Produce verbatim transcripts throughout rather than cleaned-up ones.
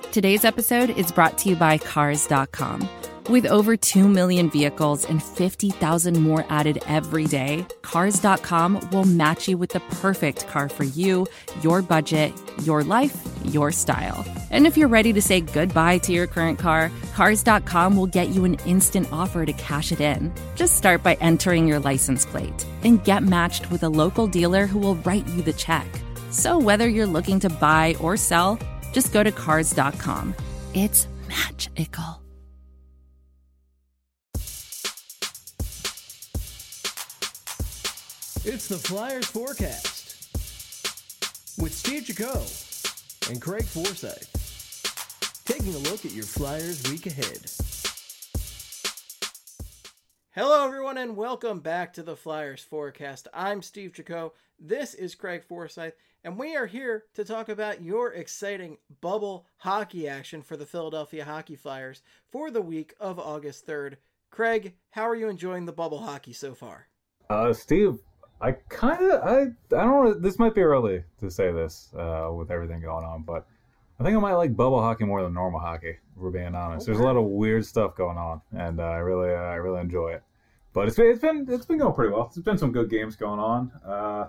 Today's episode is brought to you by Cars dot com. With over two million vehicles and fifty thousand more added every day, Cars dot com will match you with the perfect car for you, your budget, your life, your style. And if you're ready to say goodbye to your current car, Cars dot com will get you an instant offer to cash it in. Just start by entering your license plate and get matched with a local dealer who will write you the check. So whether you're looking to buy or sell, just go to Cars dot com. It's magical. It's the Flyers Forecast with Steve Jaco and Craig Forsyth, taking a look at your Flyers week ahead. Hello, everyone, and welcome back to the Flyers Forecast. I'm Steve Jaco. This is Craig Forsyth, and we are here to talk about your exciting bubble hockey action for the Philadelphia Hockey Flyers for the week of August third. Craig, how are you enjoying the bubble hockey so far? Uh, Steve, I kind of, I, I don't know, this might be early to say this uh, with everything going on, but I think I might like bubble hockey more than normal hockey, if we're being honest. Okay. There's a lot of weird stuff going on, and uh, I really, uh, I really enjoy it. But it's been, it's been, it's been going pretty well. There's been some good games going on. Uh,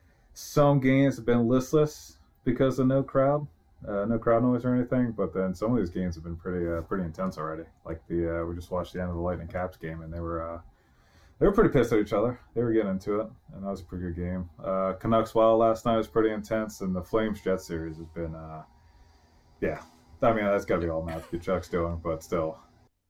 some games have been listless because of no crowd, uh, no crowd noise or anything. But then some of these games have been pretty, uh, pretty intense already. Like the, uh, we just watched the end of the Lightning Caps game, and they were, uh, they were pretty pissed at each other. They were getting into it, and that was a pretty good game. Uh, Canucks Wild last night was pretty intense, and the Flames Jet series has been, uh, yeah. I mean, that's got to be all Matthew Tkachuk's doing, but still.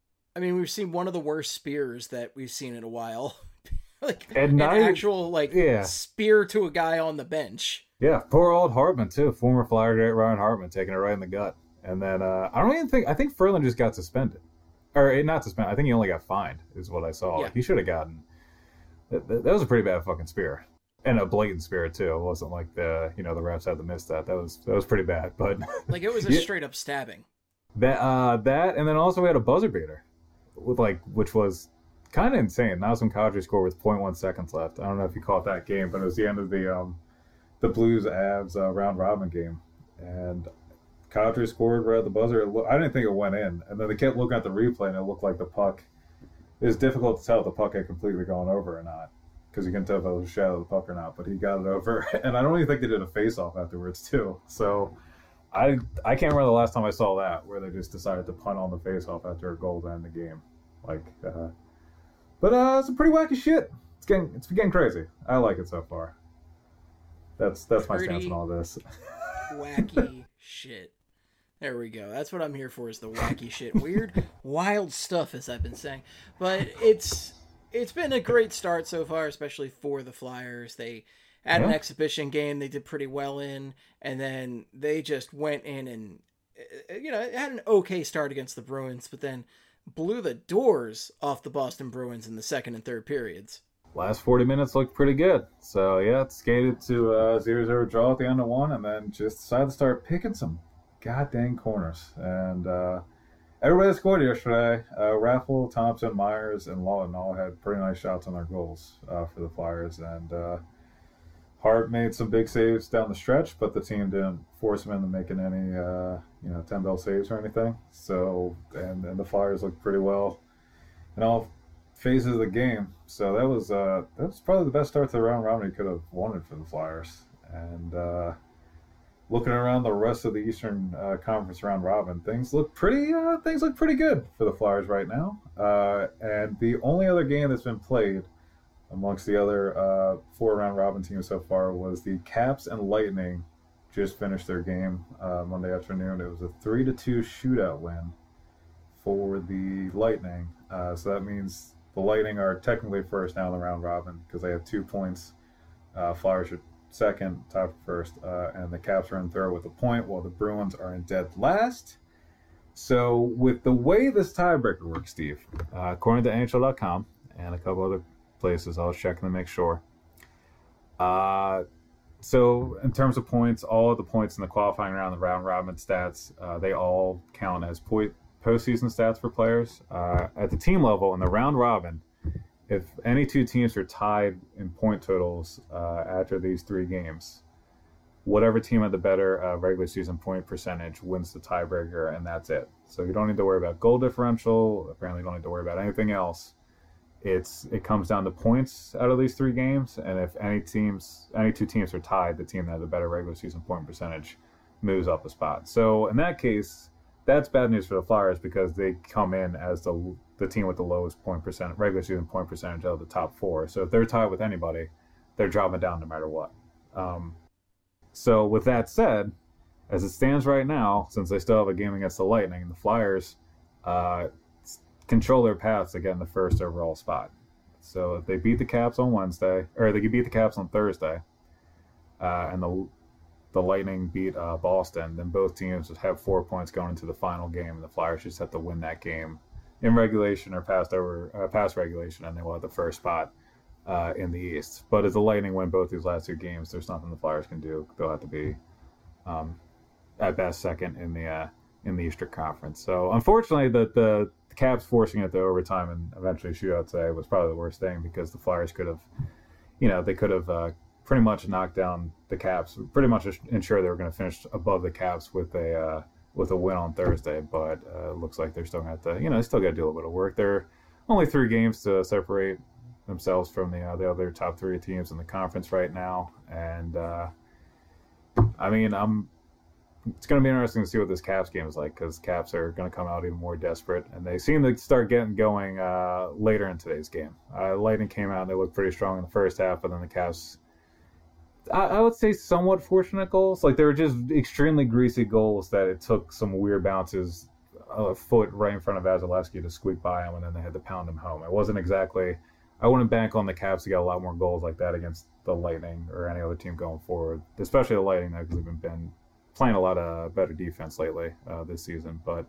I mean, we've seen one of the worst spears that we've seen in a while. like and an I, actual like yeah. spear to a guy on the bench. Yeah, poor old Hartman too. Former Flyer great Ryan Hartman taking it right in the gut. And then uh, I don't even think I think Ferland just got suspended, or not suspended. I think he only got fined, is what I saw. Yeah. He should have gotten. That, that was a pretty bad fucking spear, and a blatant spear too. It wasn't like the you know the refs had to miss that. That was that was pretty bad. But like it was a yeah. straight up stabbing. That uh, that and then also we had a buzzer beater. With like, which was kind of insane. Nazem Kadri scored with zero point one seconds left. I don't know if you caught that game, but it was the end of the um, the Blues Avs uh, round robin game, and Kadri scored right at the buzzer. It lo- I didn't think it went in, and then they kept looking at the replay, and it looked like the puck. It was difficult to tell if the puck had completely gone over or not, because you couldn't tell if it was a shadow of the puck or not. But he got it over, and I don't even think they did a face-off afterwards too. So. I I can't remember the last time I saw that where they just decided to punt on the face-off after a goal to end the game, like. Uh, but uh, it's a pretty wacky shit. It's getting it's getting crazy. I like it so far. That's that's pretty my stance on all this. Wacky shit. There we go. That's what I'm here for. Is the wacky shit, weird, wild stuff, as I've been saying. But it's it's been a great start so far, especially for the Flyers. They. At yeah. an exhibition game they did pretty well in, and then they just went in and, you know, had an okay start against the Bruins, but then blew the doors off the Boston Bruins in the second and third periods. Last forty minutes looked pretty good. So, yeah, it skated to a zero zero draw at the end of one, and then just decided to start picking some goddamn corners. And uh, everybody that scored yesterday, uh, Raffle, Thompson, Myers, and Lawton all had pretty nice shots on their goals uh, for the Flyers, and uh, Hart made some big saves down the stretch, but the team didn't force him into making any, uh, you know, ten bell saves or anything. So, and, and the Flyers looked pretty well in all phases of the game. So that was uh, that was probably the best start to the round robin he could have wanted for the Flyers. And uh, looking around the rest of the Eastern uh, Conference round robin, things look pretty uh, things look pretty good for the Flyers right now. Uh, and the only other game that's been played amongst the other uh, four round robin teams so far was the Caps and Lightning. Just finished their game uh, Monday afternoon. It was a three to two shootout win for the Lightning. Uh, so that means the Lightning are technically first now in the round robin because they have two points. Uh, Flyers are second, tied for first, uh, and the Caps are in third with a point, while the Bruins are in dead last. So with the way this tiebreaker works, Steve, uh, according to N H L dot com and a couple other places, I was checking to make sure. Uh, so in terms of points, all of the points in the qualifying round, the round robin stats, uh, they all count as point postseason stats for players. Uh, at the team level, in the round robin, if any two teams are tied in point totals uh, after these three games, whatever team had the better uh, regular season point percentage wins the tiebreaker, and that's it. So you don't need to worry about goal differential. Apparently, you don't need to worry about anything else. It's it comes down to points out of these three games, and if any teams, any two teams are tied, the team that has a better regular season point percentage moves up a spot. So in that case, that's bad news for the Flyers because they come in as the the team with the lowest point percent regular season point percentage out of the top four. So if they're tied with anybody, they're dropping down no matter what. Um, so with that said, as it stands right now, since they still have a game against the Lightning, the Flyers uh, control their paths to get in the first overall spot. So if they beat the Caps on Wednesday, or they could beat the Caps on Thursday, uh, and the the Lightning beat uh, Boston, then both teams would have four points going into the final game, and the Flyers just have to win that game in regulation or past over uh, past regulation, and they will have the first spot uh, in the East. But if the Lightning win both these last two games, there's nothing the Flyers can do. They'll have to be um, at best second in the uh, in the Eastern Conference. So unfortunately, the, the the Caps forcing it to overtime and eventually shootout today was probably the worst thing because the Flyers could have, you know, they could have uh, pretty much knocked down the Caps, pretty much ensure they were going to finish above the Caps with a uh, with a win on Thursday. But uh, it looks like they're still going to have to, you know, they still got to do a little bit of work. They're only three games to separate themselves from the uh, the other top three teams in the conference right now, and uh, I mean, I'm. It's going to be interesting to see what this Caps game is like because Caps are going to come out even more desperate, and they seem to start getting going uh, later in today's game. Uh, Lightning came out and they looked pretty strong in the first half, but then the Caps, I, I would say, somewhat fortunate goals. Like they were just extremely greasy goals that it took some weird bounces a foot right in front of Vasilevsky to squeak by him, and then they had to pound him home. It wasn't exactly. I wouldn't bank on the Caps to get a lot more goals like that against the Lightning or any other team going forward, especially the Lightning because they've been playing a lot of better defense lately uh, this season. But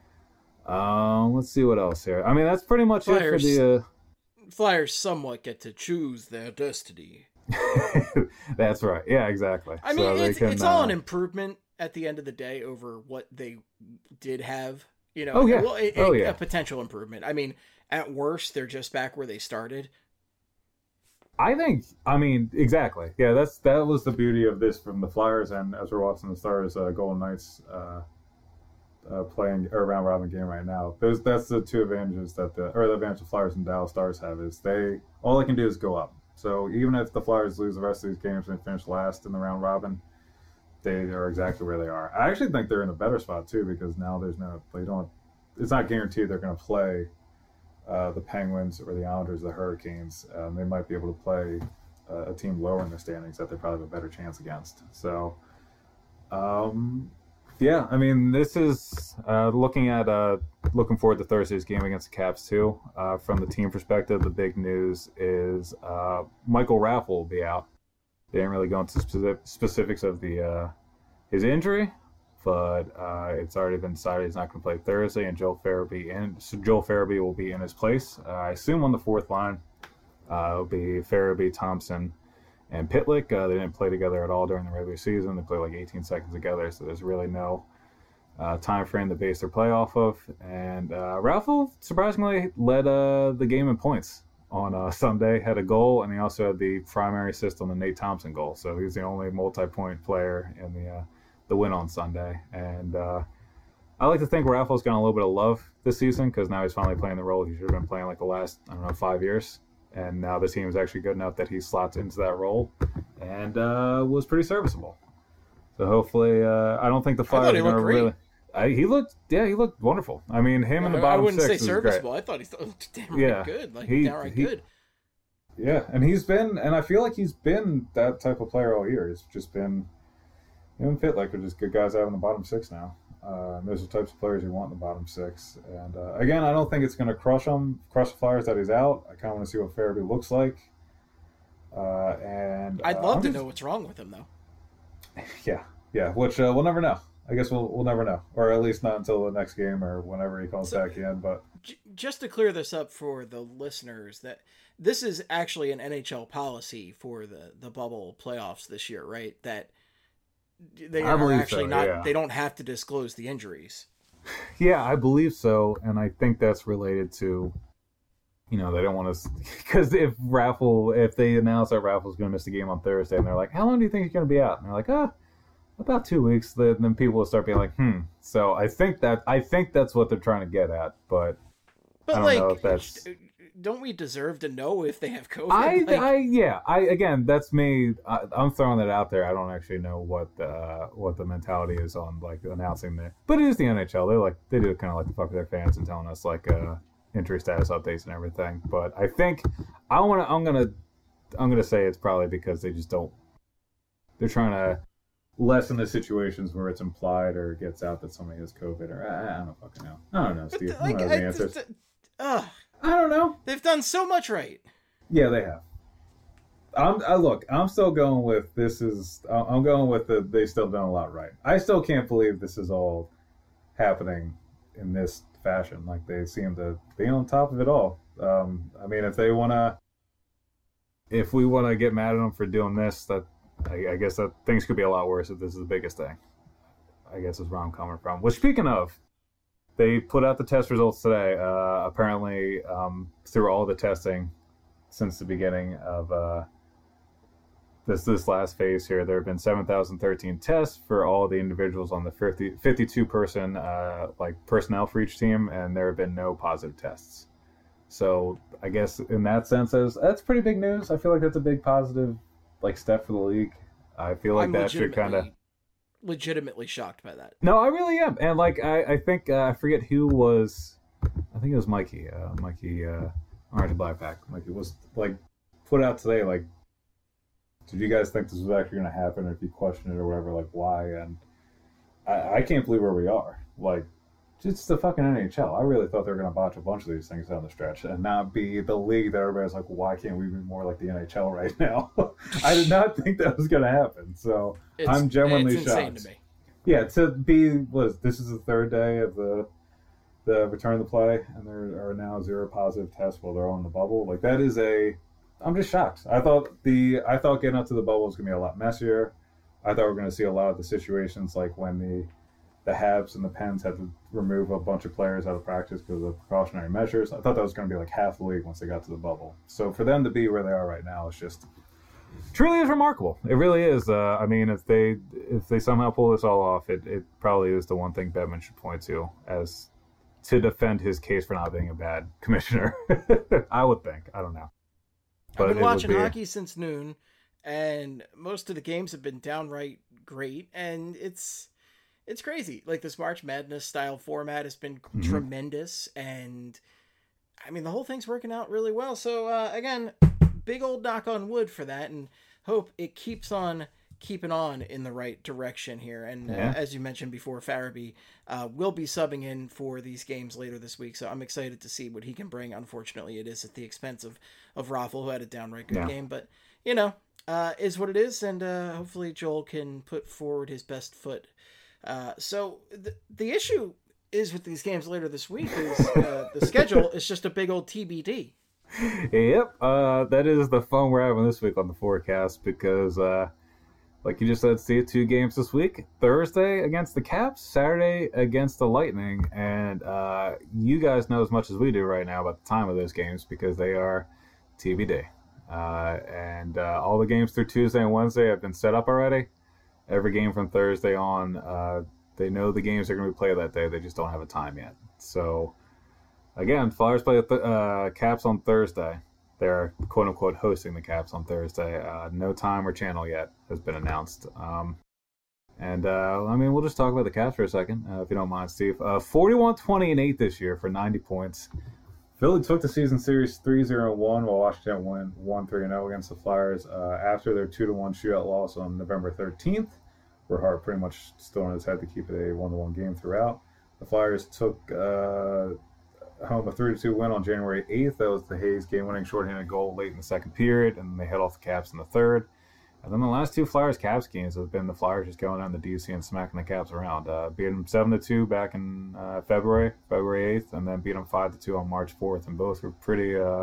uh, let's see what else here. I mean, that's pretty much Flyers, it for the... Uh... Flyers somewhat get to choose their destiny. That's right. Yeah, exactly. I mean, so it's, can, it's all uh... an improvement at the end of the day over what they did have. You know, oh, yeah. Well, it, oh, it, yeah. a potential improvement. I mean, at worst, they're just back where they started. I think, I mean, exactly. Yeah, that's that was the beauty of this from the Flyers, and as we're watching the Stars, uh, Golden Knights uh, uh, playing a round robin game right now. Those that's the two advantages that the or the advantage the Flyers and Dallas Stars have is they all they can do is go up. So even if the Flyers lose the rest of these games and finish last in the round robin, they are exactly where they are. I actually think they're in a better spot too because now there's no they don't. It's not guaranteed they're going to play. Uh, the Penguins or the Islanders, the Hurricanes, um, they might be able to play uh, a team lower in the standings that they probably have a better chance against. So, um, yeah, I mean, this is uh, looking at uh, looking forward to Thursday's game against the Caps too. Uh, from the team perspective, the big news is uh, Michael Raffl will be out. They didn't really go into specific, specifics of the uh, his injury. But uh, it's already been decided he's not going to play Thursday, and Joel Farabee in so Joel Farabee will be in his place. Uh, I assume on the fourth line, uh, it'll be Farabee, Thompson, and Pitlick. Uh, they didn't play together at all during the regular season. They played like eighteen seconds together, so there's really no uh, time frame to base their play off of. And uh, Raffl surprisingly led uh, the game in points on uh, Sunday. Had a goal, and he also had the primary assist on the Nate Thompson goal. So he's the only multi-point player in the. Uh, the win on Sunday. And uh, I like to think Raffl's gotten a little bit of love this season because now he's finally playing the role he should have been playing like the last, I don't know, five years. And now the team is actually good enough that he slots into that role and uh, was pretty serviceable. So hopefully, uh, I don't think the Flyers are going to really... I, he looked, yeah, he looked wonderful. I mean, him in the bottom six. I wouldn't say serviceable. I thought he looked damn yeah, good. Like, he, downright he, good. Yeah, and he's been, and I feel like he's been that type of player all year. He's just been... Him and Pitlick are just good guys out in the bottom six now. Uh, and those are the types of players you want in the bottom six. And uh, again, I don't think it's going to crush him, crush the Flyers that he's out. I kind of want to see what Farabee looks like. Uh, and I'd uh, love I'm to just... know what's wrong with him, though. Yeah, yeah. Which uh, we'll never know. I guess we'll we'll never know, or at least not until the next game or whenever he calls so, back in. But j- just to clear this up for the listeners, that this is actually an N H L policy for the the bubble playoffs this year, right? That they I are actually so, not, yeah. they don't have to disclose the injuries. Yeah, I believe so. And I think that's related to, you know, they don't want to, because if Raffl, if they announce that Raffl's going to miss the game on Thursday and they're like, how long do you think he's going to be out? And they're like, ah, about two weeks, then people will start being like, hmm. So I think that I think that's what they're trying to get at, but, but I don't like, know if that's. Don't we deserve to know if they have COVID? I, like... I, yeah. I again, that's me. I, I'm throwing that out there. I don't actually know what the what the mentality is on like announcing that. But it is the N H L. They like they do kind of like to fuck with their fans and telling us like uh, injury status updates and everything. But I think I want to. I'm gonna. I'm gonna say it's probably because they just don't. They're trying to lessen the situations where it's implied or it gets out that somebody has COVID or I, I don't fucking know. I don't know, Steve. But, like, I don't know the answers. Just, uh, I don't know. They've done so much right. Yeah, they have. I'm I, look. I'm still going with this is. I'm going with the. They still done a lot right. I still can't believe this is all happening in this fashion. Like they seem to be on top of it all. Um, I mean, if they want to, if we want to get mad at them for doing this, that I, I guess that things could be a lot worse if this is the biggest thing. I guess is where I'm coming from. Well, speaking of. They put out the test results today. Uh, apparently, um, through all the testing since the beginning of uh, this this last phase here, there have been seven thousand thirteen tests for all the individuals on the fifty, fifty-two person uh, like personnel for each team, and there have been no positive tests. So I guess in that sense, that's, that's pretty big news. I feel like that's a big positive like step for the league. I feel like I'm that should kind of. legitimately shocked by that. No, I really am. And like I, I think uh, I forget who was I think it was Mikey. Uh, Mikey uh Orange Blackpack. Mikey was like put out today like did you guys think this was actually gonna happen or if you question it or whatever, like why? And I, I can't believe where we are. Like it's the fucking N H L. I really thought they were gonna botch a bunch of these things down the stretch and not be the league that everybody's like, why can't we be more like the N H L right now? I did not think that was gonna happen. So it's, I'm genuinely it's shocked. Insane to me. Yeah, to be was this is the third day of the the return to play, and there are now zero positive tests while they're on the bubble. Like that is a, I'm just shocked. I thought the I thought getting up to the bubble was gonna be a lot messier. I thought we were gonna see a lot of the situations like when the the Habs and the Pens had to remove a bunch of players out of practice because of precautionary measures. I thought that was going to be like half the league once they got to the bubble. So for them to be where they are right now is just truly is remarkable. It really is. Uh, I mean, if they if they somehow pull this all off, it, it probably is the one thing Bettman should point to as to defend his case for not being a bad commissioner. I would think. I don't know. But I've been watching be... hockey since noon, and most of the games have been downright great, and it's it's crazy. Like this March Madness style format has been mm-hmm. tremendous, and I mean the whole thing's working out really well. So uh, again, big old knock on wood for that, and hope it keeps on keeping on in the right direction here. And yeah. uh, as you mentioned before, Farabee uh, will be subbing in for these games later this week, so I'm excited to see what he can bring. Unfortunately, it is at the expense of of Raffle, who had a downright good yeah. game, but you know, uh, is what it is, and uh, hopefully Joel can put forward his best foot. Uh, so the the issue is with these games later this week is uh, the schedule is just a big old T B D. Yep, uh, that is the fun we're having this week on the forecast because, uh, like you just said, Steve, two games this week. Thursday against the Caps, Saturday against the Lightning, and uh, you guys know as much as we do right now about the time of those games because they are T B D. Uh, and uh, all the games through Tuesday and Wednesday have been set up already. Every game from Thursday on, uh, they know the games are going to be played that day. They just don't have a time yet. So, again, Flyers play the uh, Caps on Thursday. They're quote-unquote hosting the Caps on Thursday. Uh, no time or channel yet has been announced. Um, and, uh, I mean, we'll just talk about the Caps for a second, uh, if you don't mind, Steve. Uh, forty-one twenty and eight this year for ninety points. Philly took the season series three zero one while Washington went one three oh against the Flyers uh, after their two to one shootout loss on November thirteenth, where Hart pretty much stood on his head to keep it a one to one game throughout. The Flyers took uh, home a three to two win on January eighth. That was the Hayes game-winning shorthanded goal late in the second period, and they head off the Caps in the third. And then the last two Flyers-Caps games have been the Flyers just going down to D C and smacking the Caps around. Uh, beat them seven to two back in uh, February, February eighth, and then beat them five to two on March fourth. And both were pretty uh,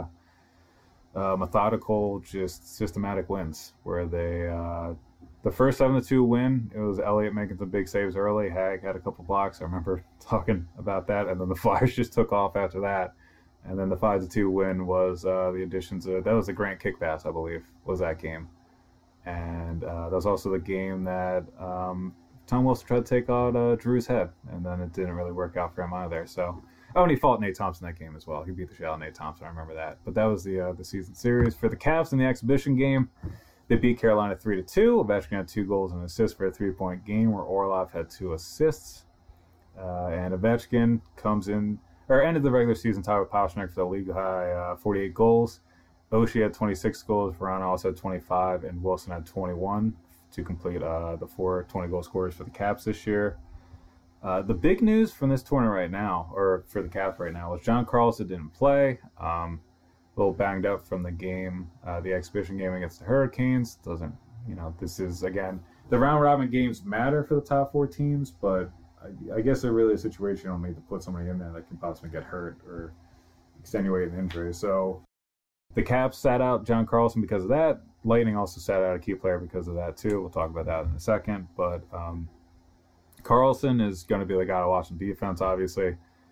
uh, methodical, just systematic wins. Where they, uh, the first seven to two win, it was Elliott making some big saves early. Hag had a couple blocks. I remember talking about that. And then the Flyers just took off after that. And then the five to two win was uh, the additions of, that was the Grant kick pass, I believe, was that game. And uh, that was also the game that um, Tom Wilson tried to take out uh, Drew's head, and then it didn't really work out for him either. So, oh, and he fought Nate Thompson that game as well. He beat the shit out of Nate Thompson. I remember that. But that was the uh, the season series for the Cavs in the exhibition game. They beat Carolina three to two. Ovechkin had two goals and assists for a three-point game, where Orlov had two assists. Uh, and Ovechkin comes in, or ended the regular season tie with Pastrnak for the league high uh, forty-eight goals. Oshie had twenty-six goals, Verana also had twenty-five, and Wilson had twenty-one to complete uh, the four twenty-goal scorers for the Caps this year. Uh, the big news from this tournament right now, or for the Caps right now, was John Carlson didn't play. Um, a little banged up from the game, uh, the exhibition game against the Hurricanes. Doesn't, you know, this is, again, the round-robin games matter for the top four teams, but I, I guess they're really a situation you don't need to put somebody in there that can possibly get hurt or extenuate an injury. So the Caps sat out John Carlson because of that. Lightning also sat out a key player because of that, too. We'll talk about that in a second. But um, Carlson is going to be the guy to watch in defense, obviously.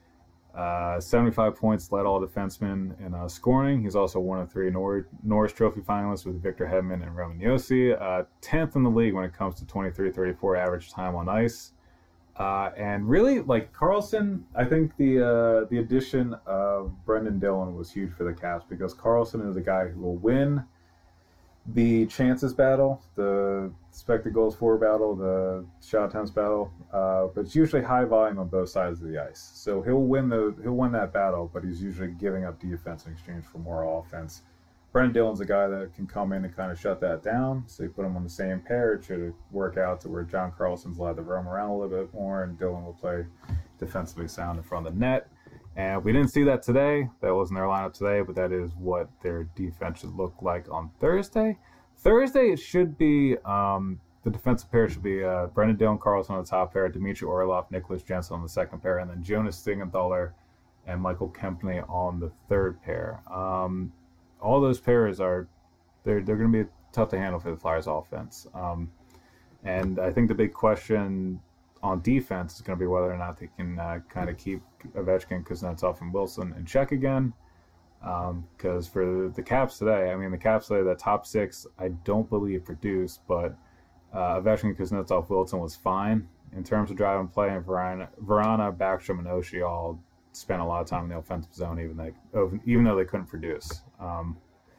Uh, seventy-five points, led all defensemen in uh, scoring. He's also one of three Nor- Norris Trophy finalists with Victor Hedman and Roman Josi. Uh, tenth in the league when it comes to twenty-three thirty-four average time on ice. Uh, and really, like, Carlson, I think the uh, the addition of Brendan Dillon was huge for the Caps, because Carlson is a guy who will win the chances battle, the expected goals for battle, the shot attempts battle, uh, but it's usually high volume on both sides of the ice. So he'll win the he'll win that battle, but he's usually giving up defense in exchange for more offense. Brendan Dillon's a guy that can come in and kind of shut that down. So you put him on the same pair, it should work out to where John Carlson's allowed to roam around a little bit more, and Dillon will play defensively sound in front of the net. And we didn't see that today. That wasn't their lineup today, but that is what their defense should look like on Thursday. Thursday, it should be, um, the defensive pair should be uh, Brendan Dillon, Carlson on the top pair, Dmitry Orlov, Nicholas Jensen on the second pair, and then Jonas Siegenthaler and Michael Kempney on the third pair. Um, all those pairs are, they're, they're going to be tough to handle for the Flyers offense. Um, and I think the big question on defense is going to be whether or not they can uh, kind of keep Ovechkin, Kuznetsov, and Wilson in check again. Because um, for the Caps today, I mean, the Caps today, the top six, I don't believe produced, but uh, Ovechkin, Kuznetsov, Wilson was fine. In terms of driving play, and Verana, Verana, Backstrom, and Oshie all spent a lot of time in the offensive zone, even, they, even though they couldn't produce. Um,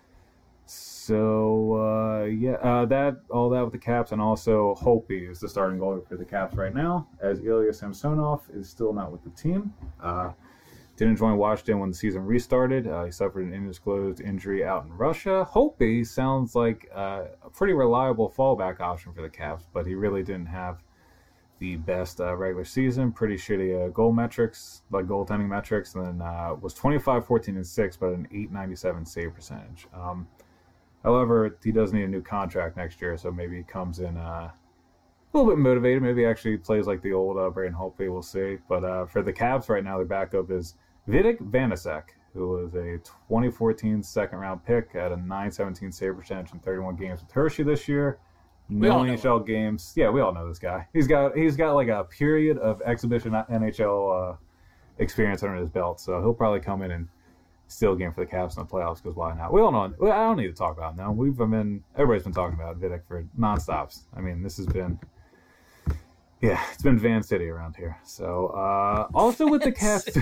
so, uh, yeah, uh, that all that with the Caps, and also Holtby is the starting goalie for the Caps right now, as Ilya Samsonov is still not with the team. Uh, didn't join Washington when the season restarted. Uh, he suffered an undisclosed injury out in Russia. Holtby sounds like uh, a pretty reliable fallback option for the Caps, but he really didn't have the best uh, regular season. Pretty shitty uh, goal metrics, like goaltending metrics, and then uh, was twenty-five, fourteen, and six, but an eight ninety-seven save percentage. Um, However, he does need a new contract next year, so maybe he comes in uh, a little bit motivated. Maybe he actually plays like the old uh, Braden Holtby. We'll see. But uh, for the Cavs right now, their backup is Vitek Vanacek, who was a twenty fourteen second-round pick at a nine seventeen save percentage in thirty-one games with Hershey this year. No N H L games. Yeah, we all know this guy. He's got he's got like a period of exhibition N H L uh, experience under his belt, so he'll probably come in and steal a game for the Cavs in the playoffs, because why not? We all know. I don't need to talk about it now. We've been everybody's been talking about Vitek for nonstops. I mean, this has been, yeah, it's been Van City around here. So uh, also with the Caps,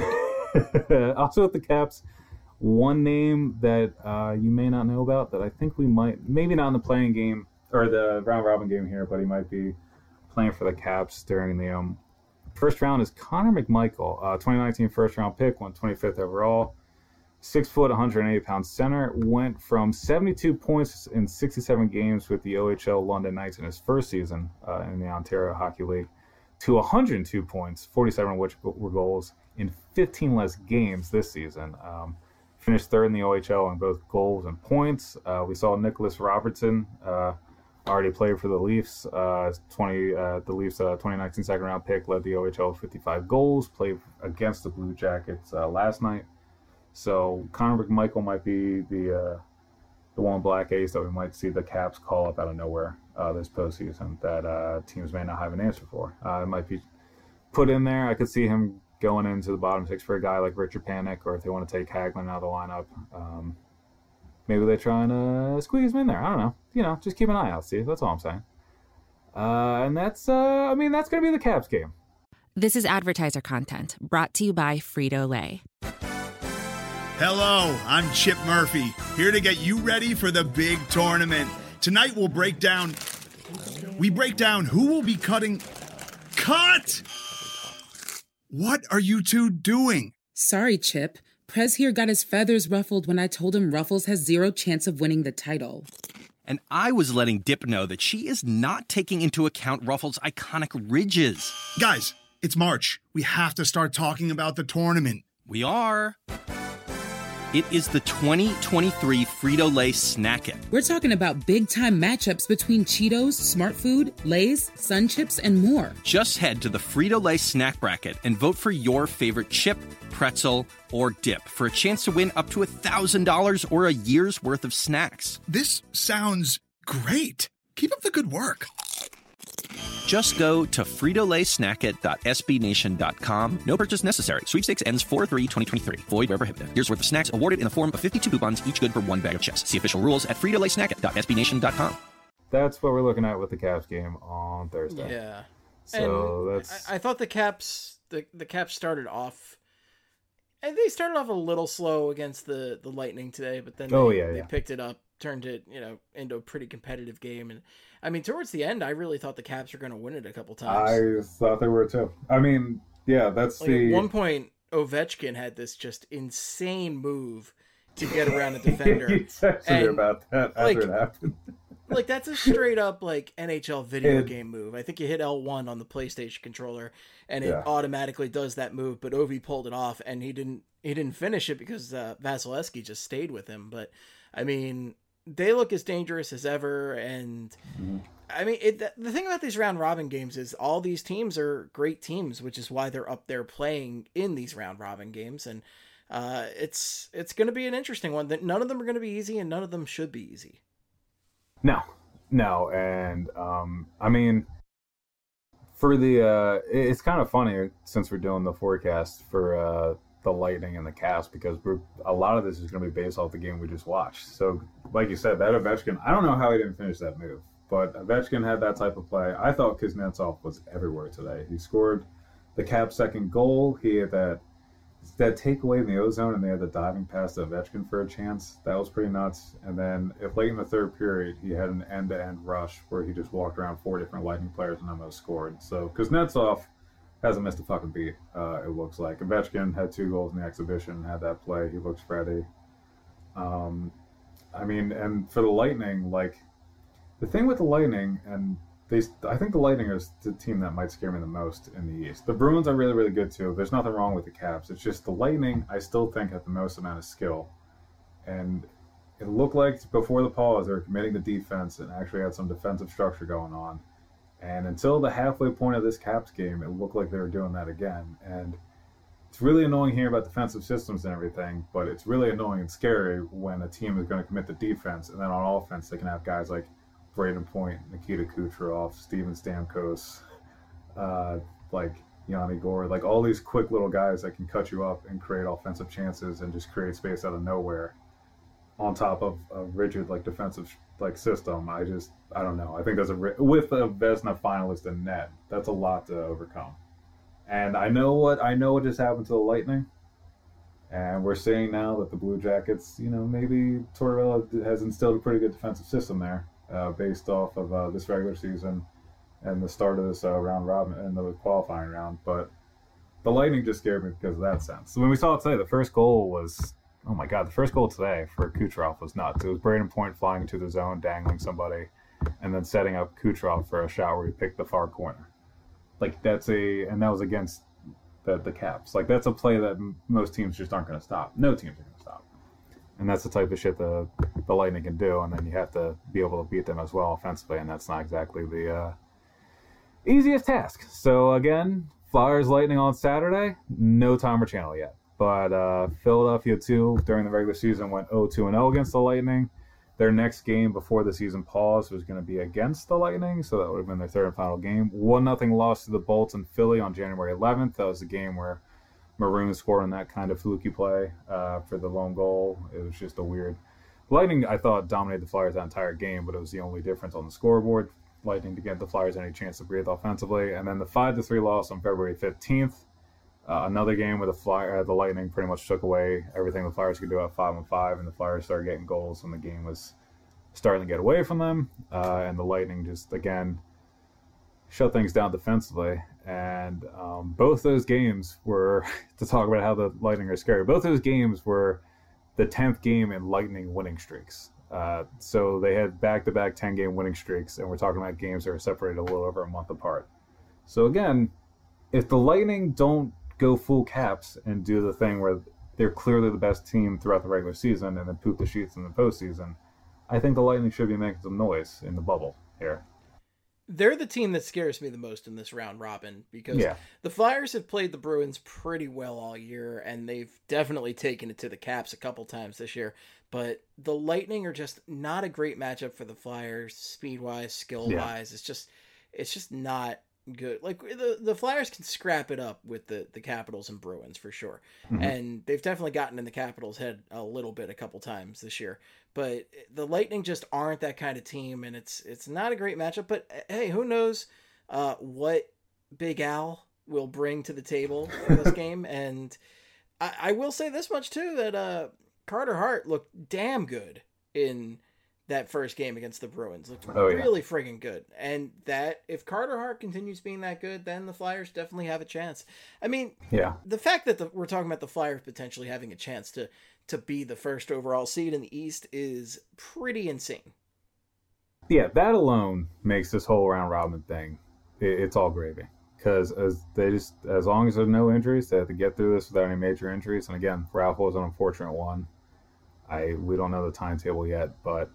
also with the Caps, one name that uh, you may not know about that I think we might, maybe not in the playing game or the round robin game here, but he might be playing for the Caps during the um, first round is Connor McMichael, uh, twenty nineteen first round pick, went twenty-fifth overall. Six foot, one hundred eighty pound center, went from seventy-two points in sixty-seven games with the O H L London Knights in his first season uh, in the Ontario Hockey League to one hundred two points, forty-seven of which were goals in fifteen less games this season. Um, finished third in the O H L in both goals and points. Uh, we saw Nicholas Robertson uh, already played for the Leafs. Uh, twenty uh, the Leafs uh, twenty nineteen second round pick, led the O H L with fifty-five goals. Played against the Blue Jackets uh, last night. So Connor McMichael might be the uh, the one black ace that we might see the Caps call up out of nowhere uh, this postseason that uh, teams may not have an answer for. Uh, it might be put in there. I could see him going into the bottom six for a guy like Richard Panik, or if they want to take Hagman out of the lineup, um, maybe they try and uh, squeeze him in there. I don't know. You know, just keep an eye out, Steve. That's all I'm saying. Uh, and that's, uh, I mean, that's going to be the Caps game. This is advertiser content brought to you by Frito-Lay. Hello, I'm Chip Murphy, here to get you ready for the big tournament. Tonight we'll break down, we break down who will be cutting, cut! What are you two doing? Sorry, Chip. Prez here got his feathers ruffled when I told him Ruffles has zero chance of winning the title. And I was letting Dip know that she is not taking into account Ruffles' iconic ridges. Guys, it's March. We have to start talking about the tournament. We are. It is the twenty twenty-three Frito-Lay Snack It. We're talking about big-time matchups between Cheetos, Smart Food, Lay's, Sun Chips, and more. Just head to the Frito-Lay Snack Bracket and vote for your favorite chip, pretzel, or dip for a chance to win up to one thousand dollars or a year's worth of snacks. This sounds great. Keep up the good work. Just go to frito lay snack it dot s b nation dot com. No purchase necessary. Sweepstakes ends four three twenty twenty-three. Void where prohibited. Here's worth of snacks awarded in the form of fifty-two coupons, each good for one bag of chips. See official rules at frito lay snack it dot s b nation dot com. That's what we're looking at with the Caps game on Thursday. Yeah. So and that's. I, I thought the Caps the, the Caps started off. And they started off a little slow against the, the Lightning today, but then they, oh, yeah, they yeah. picked it up, turned it, you know, into a pretty competitive game. And I mean, towards the end, I really thought the Caps were going to win it a couple times. I thought they were too. I mean, yeah, that's like the. At one point, Ovechkin had this just insane move to get around a defender. He texted me And, about that after like, it happened. Like, that's a straight up, like, N H L video It- game move. I think you hit L one on the PlayStation controller, and it Yeah. automatically does that move, but Ovi pulled it off, and he didn't he didn't finish it because uh, Vasilevsky just stayed with him. But, I mean, they look as dangerous as ever, and, Mm-hmm. I mean, it, the thing about these round-robin games is all these teams are great teams, which is why they're up there playing in these round-robin games, and uh, it's, it's going to be an interesting one. That none of them are going to be easy, and none of them should be easy. No, no, and um, I mean, for the uh, it's kind of funny since we're doing the forecast for uh, the Lightning and the Caps because we're a lot of this is going to be based off the game we just watched. So, like you said, that Ovechkin, I don't know how he didn't finish that move, but Ovechkin had that type of play. I thought Kuznetsov was everywhere today. He scored the Caps' second goal. He had that. That takeaway in the ozone, and they had the diving pass to Ovechkin for a chance. That was pretty nuts. And then, if late in the third period, he had an end-to-end rush where he just walked around four different Lightning players and almost scored. So, Kuznetsov hasn't missed a fucking beat. Uh, it looks like Ovechkin had two goals in the exhibition, had that play. He looks ready. Um, I mean, and for the Lightning, like the thing with the Lightning and. They, I think the Lightning is the team that might scare me the most in the East. The Bruins are really, really good too. There's nothing wrong with the Caps. It's just the Lightning, I still think, have the most amount of skill. And it looked like before the pause, they were committing to defense and actually had some defensive structure going on. And until the halfway point of this Caps game, it looked like they were doing that again. And it's really annoying hearing about defensive systems and everything, but it's really annoying and scary when a team is going to commit to defense, and then on offense, they can have guys like Braden Point, Nikita Kucherov, Steven Stamkos, uh, like Yanni Gourde, like all these quick little guys that can cut you up and create offensive chances and just create space out of nowhere on top of a rigid like defensive like system. I just, I don't know. I think there's a, with a Vezina finalist in net, that's a lot to overcome. And I know what, I know what just happened to the Lightning. And we're seeing now that the Blue Jackets, you know, maybe Tortorella has instilled a pretty good defensive system there. Uh, based off of uh, this regular season and the start of this uh, round robin and the qualifying round, but the Lightning just scared me because of that sense. So when we saw it today, the first goal was, oh my god, the first goal today for Kucherov was nuts. It was Braden Point flying into the zone, dangling somebody, and then setting up Kucherov for a shot where he picked the far corner. Like that's a, and that was against the the Caps. Like that's a play that m- most teams just aren't going to stop. No teams are going to stop. And that's the type of shit the the Lightning can do, and then you have to be able to beat them as well offensively, and that's not exactly the uh, easiest task. So again, Flyers Lightning on Saturday, no timer channel yet. But uh, Philadelphia too during the regular season went oh two and oh against the Lightning. Their next game before the season pause was going to be against the Lightning, so that would have been their third and final game. one nothing loss to the Bolts in Philly on January eleventh. That was the game where Maroon scored on that kind of fluky play uh, for the lone goal. It was just a weird. Lightning, I thought, dominated the Flyers that entire game, but it was the only difference on the scoreboard. Lightning to give the Flyers any chance to breathe offensively. And then the five to three loss on February fifteenth. Uh, another game where the Flyer, uh, the Lightning pretty much took away everything the Flyers could do at five on five, and the Flyers started getting goals when the game was starting to get away from them. Uh, and the Lightning just, again, shut things down defensively. And um, both those games were, to talk about how the Lightning are scary, both those games were the tenth game in Lightning winning streaks. Uh, so they had back-to-back ten-game winning streaks, and we're talking about games that are separated a little over a month apart. So again, if the Lightning don't go full Caps and do the thing where they're clearly the best team throughout the regular season and then poop the sheets in the postseason, I think the Lightning should be making some noise in the bubble here. They're the team that scares me the most in this round robin, because yeah. the Flyers have played the Bruins pretty well all year, and they've definitely taken it to the Caps a couple times this year. But the Lightning are just not a great matchup for the Flyers, speed-wise, skill-wise. Yeah. It's just, it's just not good. Like the the Flyers can scrap it up with the the Capitals and Bruins for sure, mm-hmm. and they've definitely gotten in the Capitals' head a little bit a couple times this year. But the Lightning just aren't that kind of team, and it's it's not a great matchup. But hey, who knows uh, what Big Al will bring to the table in this game? And I, I will say this much too, that uh, Carter Hart looked damn good in that first game against the Bruins. Looked oh, really yeah. friggin' good. And that, if Carter Hart continues being that good, then the Flyers definitely have a chance. I mean, yeah. the fact that the, we're talking about the Flyers potentially having a chance to, to be the first overall seed in the East is pretty insane. Yeah, that alone makes this whole round robin thing, it, it's all gravy. Because as they just, as long as there's no injuries, they have to get through this without any major injuries. And again, Ralph was an unfortunate one. I we don't know the timetable yet, but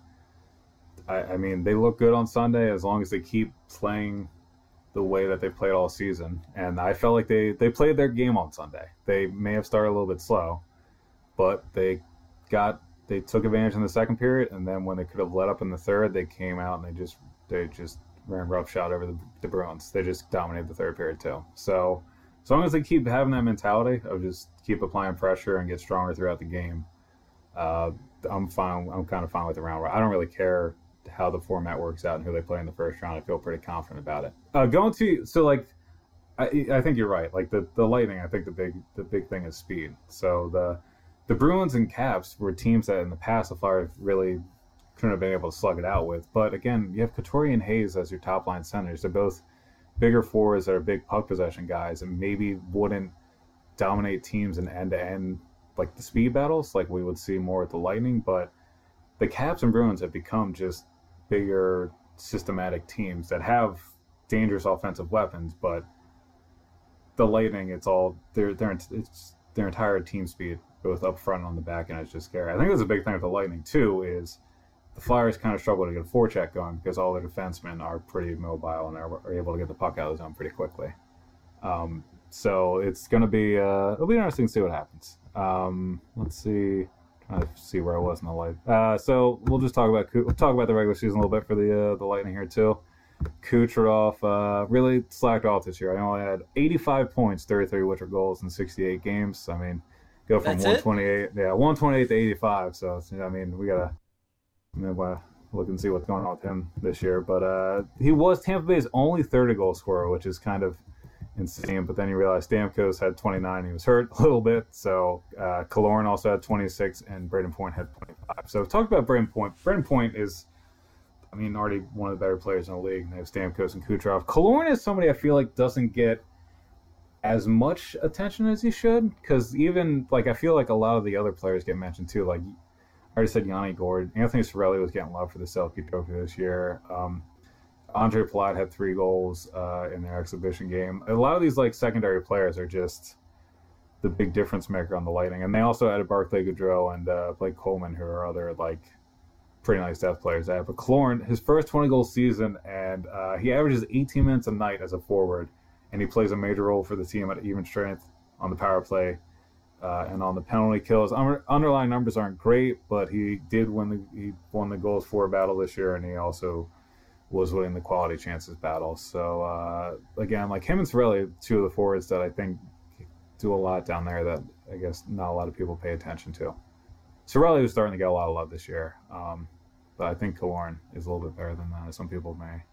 I, I mean, they look good on Sunday as long as they keep playing the way that they played all season. And I felt like they, they played their game on Sunday. They may have started a little bit slow, but they got they took advantage in the second period, and then when they could have let up in the third, they came out and they just they just ran roughshod over the, the Bruins. They just dominated the third period too. So as long as they keep having that mentality of just keep applying pressure and get stronger throughout the game, uh, I'm fine. I'm kind of fine with the round. I don't really care how the format works out and who they play in the first round. I feel pretty confident about it. Uh, going to so like, I I think you're right. Like the, the Lightning, I think the big the big thing is speed. So the the Bruins and Caps were teams that in the past the Flyers really couldn't have been able to slug it out with. But again, you have Couturier and Hayes as your top line centers. They're both bigger forwards that are big puck possession guys and maybe wouldn't dominate teams in end to end like the speed battles like we would see more with the Lightning. But the Caps and Bruins have become just bigger, systematic teams that have dangerous offensive weapons, but the Lightning, it's all their their it's their entire team speed, both up front and on the back end, is just scary. I think that's a big thing with the Lightning too. Is the Flyers kind of struggle to get a forecheck going because all their defensemen are pretty mobile and are, are able to get the puck out of the zone pretty quickly. Um, so it's going to be uh, it'll be interesting to see what happens. Um, let's see. I see where I was in the light. Uh, so we'll just talk about we'll talk about the regular season a little bit for the uh, the Lightning here too. Kucherov uh, really slacked off this year. I only had eighty-five points, thirty-three Witcher goals in sixty-eight games. I mean, go from That's one twenty-eight, it? yeah, one twenty-eight to eighty-five. So I mean, we gotta I mean, we'll look and see what's going on with him this year. But uh, he was Tampa Bay's only thirty goal scorer, which is kind of insane. But then you realize Stamkos had twenty-nine. He was hurt a little bit. So uh, Killorn also had twenty-six, and Braden Point had twenty-five. So talk about Braden Point. Braden Point is, I mean, already one of the better players in the league. And they have Stamkos and Kucherov. Killorn is somebody I feel like doesn't get as much attention as he should. Because even, like, I feel like a lot of the other players get mentioned too. Like, I already said Yanni Gourde. Anthony Cirelli was getting love for the Selke Trophy this year. Um, Andre Palat had three goals uh, in their exhibition game. A lot of these like secondary players are just the big difference maker on the Lightning, and they also added Barclay Goodrow and uh, Blake Coleman, who are other like pretty nice depth players. There. But Killorn, his first twenty goal season, and uh, he averages eighteen minutes a night as a forward, and he plays a major role for the team at even strength on the power play uh, and on the penalty kills. Under- underlying numbers aren't great, but he did win the he won the goals for battle this year, and he also was winning the quality chances battle. So, uh, again, like him and Cirelli, two of the forwards that I think do a lot down there that I guess not a lot of people pay attention to. Cirelli was starting to get a lot of love this year, um, but I think Killorn is a little bit better than that, as some people may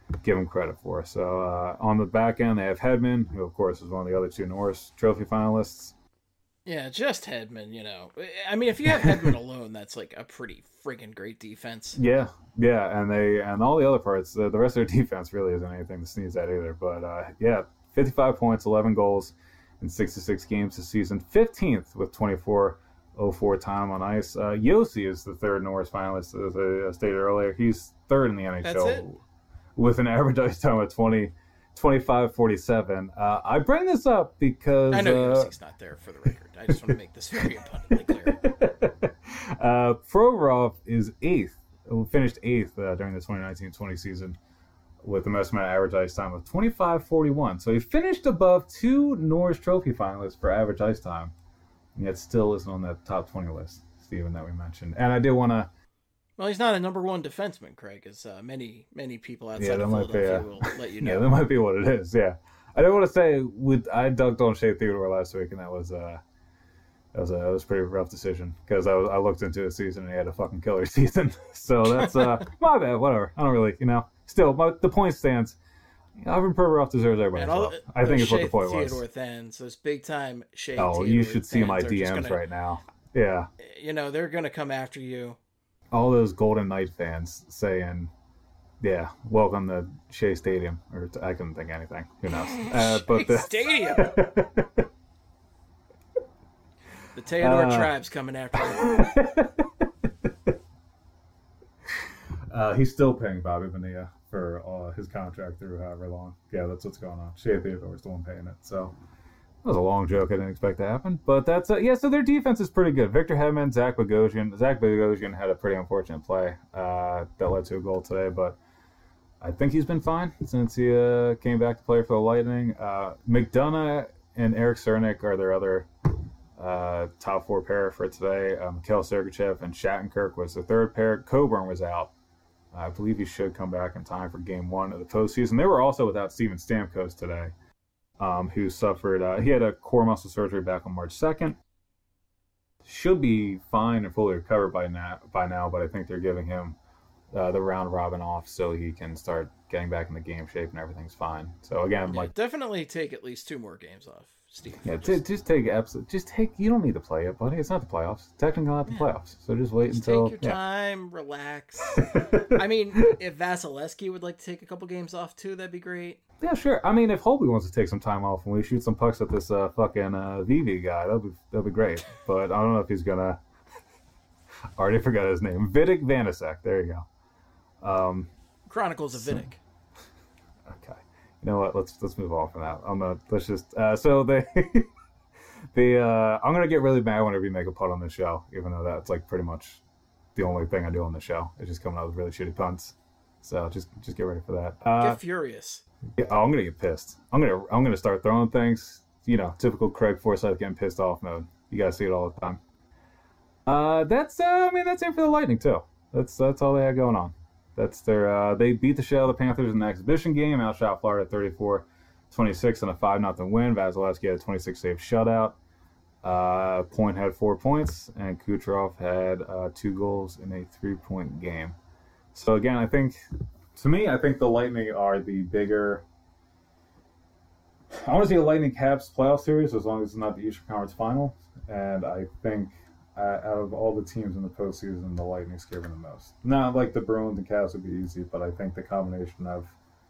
give them credit for. So uh, on the back end, they have Hedman, who of course is one of the other two Norris Trophy finalists. Yeah, just Hedman, you know. I mean, if you have Hedman alone, that's like a pretty friggin' great defense. Yeah, yeah, and they and all the other parts, the, the rest of their defense really isn't anything to sneeze at either. But uh, yeah, fifty-five points, eleven goals in sixty-six games this season, fifteenth with twenty-four oh four time on ice. Uh, Yossi is the third Norris finalist, as I stated earlier. He's third in the N H L That's it? with an average ice time of twenty. twenty-five forty-seven. Uh, I bring this up because I know uh, Yossi's not there for the record. I just want to make this very abundantly clear. uh, Provorov is eighth, who finished eighth uh, during the twenty nineteen twenty season with the most amount of average ice time of twenty-five forty-one. So he finished above two Norris Trophy finalists for average ice time, and yet still isn't on that top twenty list, Steven, that we mentioned. And I did want to Well, he's not a number one defenseman, Craig, as uh, many many people outside Yeah, that of might be, Philadelphia uh, will let you know. Yeah, that might be what it is. Yeah, I don't want to say with I dunked on Shea Theodore last week, and that was uh that was a that was a pretty rough decision because I was, I looked into his season and he had a fucking killer season. So that's uh my bad. Whatever. I don't really, you know. Still, my, the point stands. Ivan Provorov deserves everybody's And all, love. I think it's what Shea the point Theodore was. fans, those big time Shea Oh, Theodore you should see my fans are D just Ms gonna- right now. Yeah, You know, they're gonna come after you. all those Golden Knight fans saying, "Yeah, welcome to Shea Stadium," or to, I couldn't think of anything. Who knows? Uh, but the Stadium. The Theodore Uh, tribe's coming after you. uh, he's still paying Bobby Bonilla for uh, his contract through however long. Yeah, that's what's going on. Shea Theodore's the one paying it. So that was a long joke. I didn't expect to happen, but that's uh, yeah. So their defense is pretty good. Victor Hedman, Zach Bogosian. Zach Bogosian had a pretty unfortunate play uh, that led to a goal today, but I think he's been fine since he uh, came back to play for the Lightning. Uh, McDonough and Eric Cernak are their other uh, top four pair for today. Uh, Mikhail Sergachev and Shattenkirk was the third pair. Coburn was out. I believe he should come back in time for game one of the postseason. They were also without Steven Stamkos today, um, who suffered, uh, he had a core muscle surgery back on March second. Should be fine and fully recovered by now, by now but I think they're giving him uh, the round robin off so he can start getting back in the game shape and everything's fine. So again, Yeah, like, definitely take at least two more games off, Steve. yeah, Just- t- just take absolute, just take, you don't need to play it, buddy. It's not the playoffs. Technically not the playoffs. So just wait Just until, take your yeah. time, relax. I mean, if Vasilevsky would like to take a couple games off too, that'd be great. Yeah, sure. I mean, if Holby wants to take some time off and we shoot some pucks at this uh, fucking uh, V V guy, that'll be that'll be great. But I don't know if he's gonna. Already forgot his name. Vitek Vanacek. There you go. Um, Chronicles of Vidic. okay. You know what? Let's let's move on from that. I'm gonna let's just. Uh, so they. the uh, I'm gonna get really mad whenever you make a punt on this show, even though that's like pretty much the only thing I do on the show. It's just coming out with really shitty punts. So just just get ready for that. Uh, Get furious. Yeah, oh, I'm gonna get pissed. I'm gonna I'm gonna start throwing things. You know, typical Craig Forsyth getting pissed off mode. You guys see it all the time. Uh, that's uh, I mean that's it for the Lightning too. That's that's all they had going on. That's their uh, they beat the shit out of the Panthers in the exhibition game. Outshot Florida thirty-four twenty-six in a five nothing win. Vasilevsky had a twenty-six save shutout. Uh, Point had four points, and Kucherov had uh, two goals in a three point game. So again, I think. To me, I think the Lightning are the bigger. I want to see a Lightning Caps playoff series as long as it's not the Eastern Conference Final. And I think uh, out of all the teams in the postseason, the Lightning's given the most. Not like the Bruins and Caps would be easy, but I think the combination of.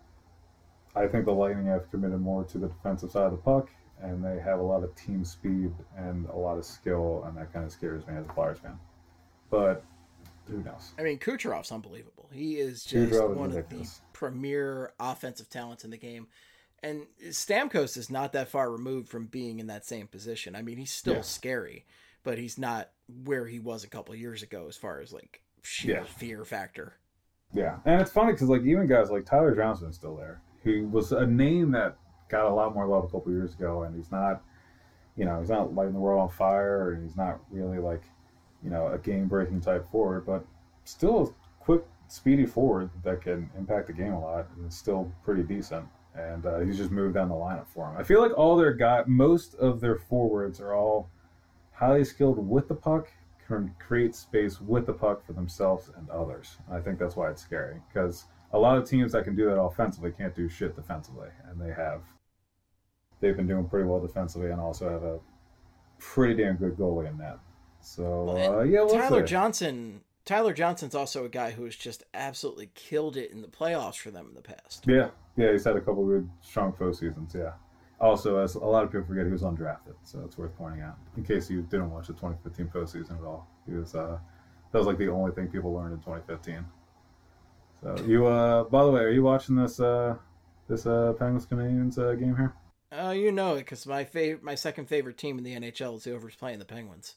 I think the Lightning have committed more to the defensive side of the puck, and they have a lot of team speed and a lot of skill, and that kind of scares me as a Flyers fan. But. Who knows? I mean, Kucherov's unbelievable. He is just Kucherov is one ridiculous. of the premier offensive talents in the game. And Stamkos is not that far removed from being in that same position. I mean, he's still Yeah. scary, but he's not where he was a couple of years ago as far as like sheer Yeah. fear factor. Yeah, and it's funny because like even guys like Tyler Johnson's still there. He was a name that got a lot more love a couple years ago, and he's not, you know, he's not lighting the world on fire, and he's not really like, you know, a game-breaking type forward, but still a quick, speedy forward that can impact the game a lot, and is still pretty decent. And uh, he's just moved down the lineup for him. I feel like all their guy, most of their forwards are all highly skilled with the puck, can create space with the puck for themselves and others. I think that's why it's scary, because a lot of teams that can do that offensively can't do shit defensively, and they have. They've been doing pretty well defensively, and also have a pretty damn good goalie in that. So uh, yeah, we'll Tyler see. Johnson. Tyler Johnson's also a guy who has just absolutely killed it in the playoffs for them in the past. Yeah, yeah, he's had a couple of good, strong postseasons. Yeah. Also, as a lot of people forget, he was undrafted, so it's worth pointing out. In case you didn't watch the twenty fifteen postseason at all, he was. Uh, that was like the only thing people learned in twenty fifteen. So you, uh, by the way, are you watching this uh, this uh, Penguins Canadiens uh, game here? Oh, uh, you know it, because my fav- my second favorite team in the N H L is whoever's playing the Penguins.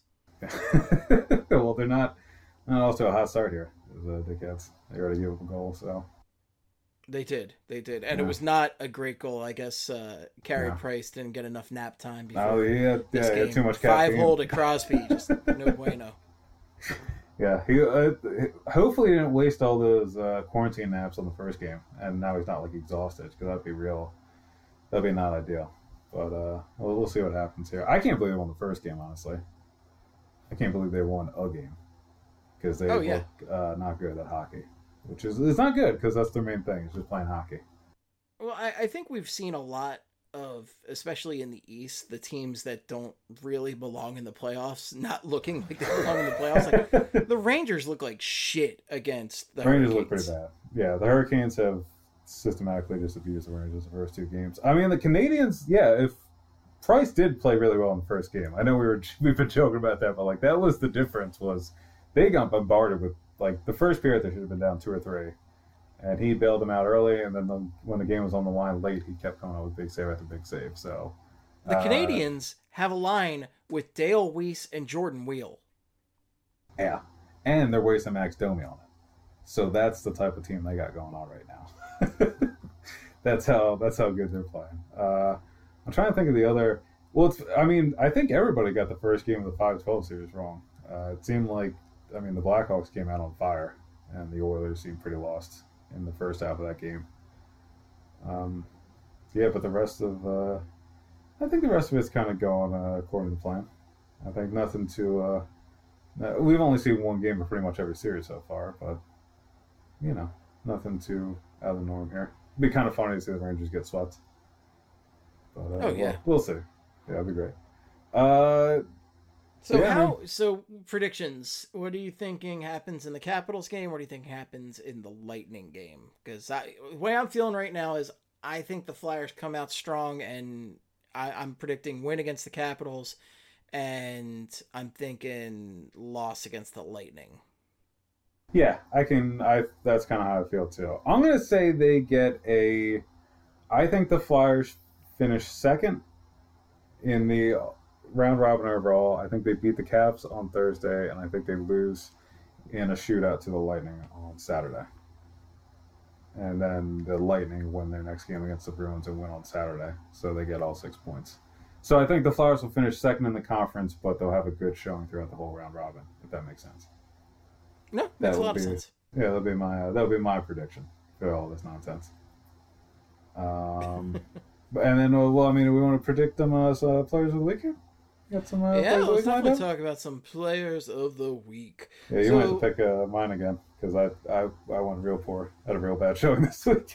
Well, they're not. Not also a hot start here. It was uh, dickheads. They already gave up a goal, so. They did, they did, and yeah. it was not a great goal. I guess uh, Carey yeah. Price didn't get enough nap time before. Oh, he had, yeah, this he game. had too much caffeine. Five hole to Crosby, just no bueno. Yeah, he uh, hopefully he didn't waste all those uh, quarantine naps on the first game, and now he's not like exhausted, because that'd be real. That'd be not ideal. But uh, we'll, we'll see what happens here. I can't believe they won the first game, honestly. I can't believe they won a game. Because they oh, look yeah. uh, not good at hockey, which is it's not good because that's their main thing is just playing hockey. Well, I, I think we've seen a lot of, especially in the East, the teams that don't really belong in the playoffs, not looking like they belong in the playoffs. Like the Rangers look like shit against the Rangers Hurricanes. look pretty bad. Yeah, the Hurricanes have systematically just abused the Rangers the first two games. I mean, the Canadians, yeah, if Price did play really well in the first game. I know we were we've been joking about that, but like that was the difference was. They got bombarded with, like, the first period they should have been down two or three. And he bailed them out early, and then the, when the game was on the line late, he kept coming out with big save after big save. So The uh, Canadians have a line with Dale Weiss and Jordan Wheel. Yeah. And they're wasting Max Domi on it. So that's the type of team they got going on right now. that's how that's how good they're playing. Uh, I'm trying to think of the other... Well, it's, I mean, I think everybody got the first game of the five twelve series wrong. Uh, it seemed like I mean, the Blackhawks came out on fire, and the Oilers seemed pretty lost in the first half of that game. Um, yeah, but the rest of, uh, I think the rest of it's kind of going uh, according to plan. I think nothing to, uh, we've only seen one game of pretty much every series so far, but, you know, nothing too out of the norm here. It'd be kind of funny to see the Rangers get swept. But, uh, oh, yeah. We'll, we'll see. Yeah, it'd be great. Uh, So yeah, how? I mean, so predictions. What are you thinking happens in the Capitals game? What do you think happens in the Lightning game? Because the way I'm feeling right now is I think the Flyers come out strong, and I, I'm predicting win against the Capitals, and I'm thinking loss against the Lightning. Yeah, I can. I that's kind of how I feel too. I'm gonna say they get a. I think the Flyers finish second in the round robin overall. I think they beat the Caps on Thursday, and I think they lose in a shootout to the Lightning on Saturday. And then the Lightning win their next game against the Bruins and win on Saturday, so they get all six points. So I think the Flyers will finish second in the conference, but they'll have a good showing throughout the whole round robin, if that makes sense. No, makes a lot be, of sense. Yeah, that'll be my uh, that'll be my prediction for all this nonsense. Um, and then, uh, well, I mean, do we want to predict them as uh, players of the week here? Got some. Uh, Yeah, let's lined definitely up? talk about some players of the week. Yeah, you So- might have to pick uh, mine again because I, I I went real poor. Had a real bad showing this week.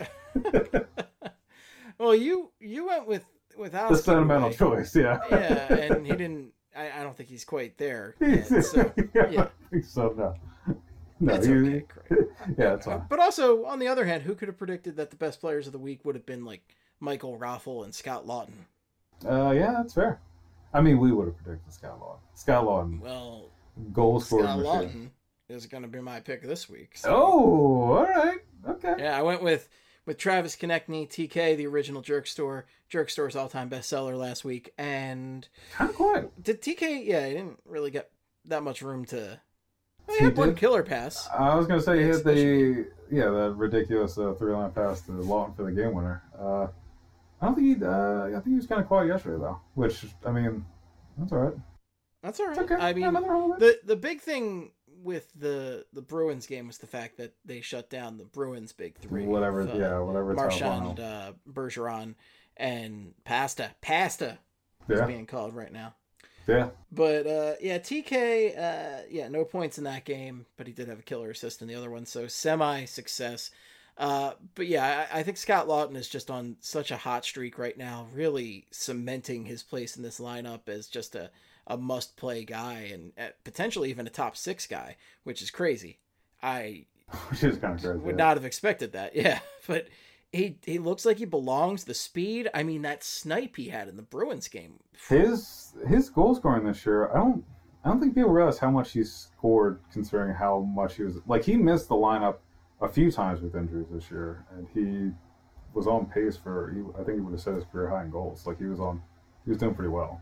Well, you you went with with Alex. the sentimental anyway. choice, yeah. Yeah, and he didn't. I, I don't think he's quite there. Yet, so, yeah, yeah. I think so. No, no, That's he- okay, great. yeah, that's fine. But also, on the other hand, who could have predicted that the best players of the week would have been like Michael Raffle and Scott Lawton? Uh, yeah, that's fair. I mean, we would have predicted Scott Lawton. Scott Lawton, Well, goal scoring Scott machine. Lawton is going to be my pick this week. So. Oh, all right, okay. Yeah, I went with with Travis Konechny, T K, the original Jerk Store, Jerk Store's all-time bestseller last week, and Kind of quiet. did T K? Yeah, he didn't really get that much room to. Well, he He had one did? killer pass. I was gonna say he hit the Exhibition yeah that ridiculous uh, three line pass to Lawton for the game winner. Uh, I don't think he. Uh, I think he was kind of quiet yesterday though, which I mean, that's all right. That's all right. It's okay. I Yeah, mean, nothing wrong with the it. the big thing with the the Bruins game was the fact that they shut down the Bruins' big three. Whatever, of, uh, yeah, whatever. It's Marchand, uh, Bergeron, and Pasta. Pasta is Yeah. being called right now. Yeah, But uh, yeah, T K, uh, yeah, no points in that game, but he did have a killer assist in the other one, so semi success. Uh, but yeah, I, I think Scott Lawton is just on such a hot streak right now, really cementing his place in this lineup as just a, a must-play guy and uh, potentially even a top six guy, which is crazy. I Which is kind of crazy. would yeah. not have expected that. Yeah, but he he looks like he belongs. The speed, I mean, that snipe he had in the Bruins game. His his goal scoring this year, I don't I don't think people realize how much he scored considering how much he was like he missed the lineup a few times with injuries this year, and he was on pace for he, I think he would have set his career high in goals. Like he was on he was doing pretty well.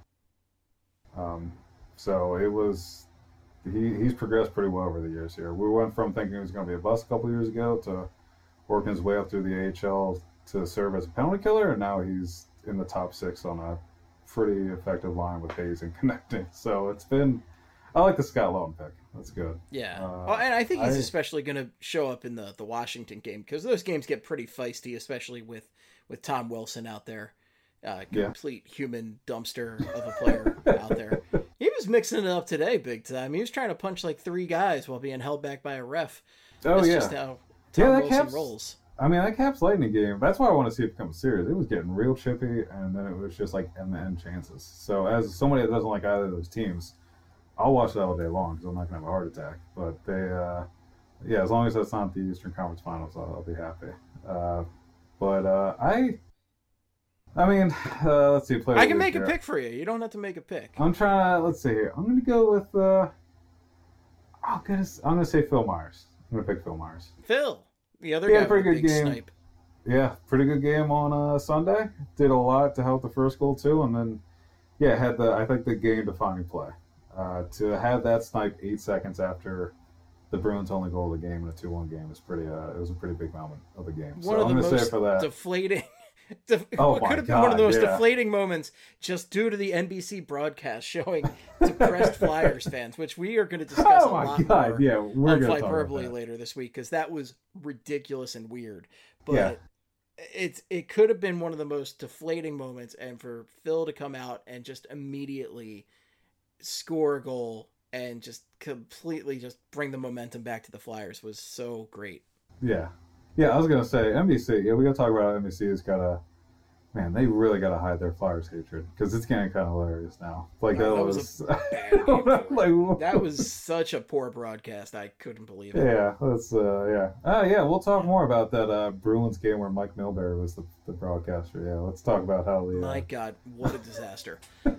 Um, so it was he he's progressed pretty well over the years here. We went from thinking he was going to be a bust a couple years ago to working his way up through the A H L to serve as a penalty killer, and now he's in the top six on a pretty effective line with Hayes and connecting. So it's been, I like the Scott Lawton pick. That's good. Yeah. Uh, oh, and I think he's I- especially going to show up in the, the Washington game because those games get pretty feisty, especially with, with Tom Wilson out there. Uh, Yeah. complete human dumpster of a player out there. He was mixing it up today big time. He was trying to punch like three guys while being held back by a ref. Oh, That's yeah. just how Tom Yeah, that Wilson Caps- rolls. I mean, that Caps Lightning game, that's why I want to see it become serious. It was getting real chippy, and then it was just like end-to-end chances. So as somebody that doesn't like either of those teams, I'll watch that all day long because I'm not going to have a heart attack. But they, uh, yeah, as long as that's not the Eastern Conference Finals, I'll, I'll be happy. Uh, but uh, I, I mean, uh, let's see. Player I of can the make week a here. pick for you. You don't have to make a pick. I'm trying to, let's see here. I'm going to go with, uh, oh, goodness, I'm going to say Phil Myers. I'm going to pick Phil Myers. Phil, the other He guy had a pretty with the good big game. snipe. Yeah, pretty good game on uh, Sunday. Did a lot to help the first goal too, and then yeah, had the I think the game-defining play uh, to have that snipe eight seconds after the Bruins' only goal of the game in a two one game is pretty. Uh, it was a pretty big moment of the game. One so of I'm the gonna say most for that. deflating. Def- Oh what my could have been one of the God, most yeah. deflating moments just due to the N B C broadcast showing depressed Flyers fans, which we are going to discuss Oh a my lot God, more yeah, we're on gonna talk about Hyperbole that. later this week because that was ridiculous and weird. But Yeah. it's it could have been one of the most deflating moments, and for Phil to come out and just immediately score a goal and just completely just bring the momentum back to the Flyers was so great. Yeah, yeah. I was gonna say N B C. Yeah, we gotta talk about N B C. Has gotta. Man, they really gotta hide their Flyers hatred because it's getting kind of hilarious now. Like Wow, that, that was. was a bad game for it. like, That was such a poor broadcast. I couldn't believe it. Yeah, that's uh, yeah. Uh, yeah, we'll talk more about that uh, Bruins game where Mike Milbury was the, the broadcaster. Yeah, let's talk about how the. Uh... My God, what a disaster.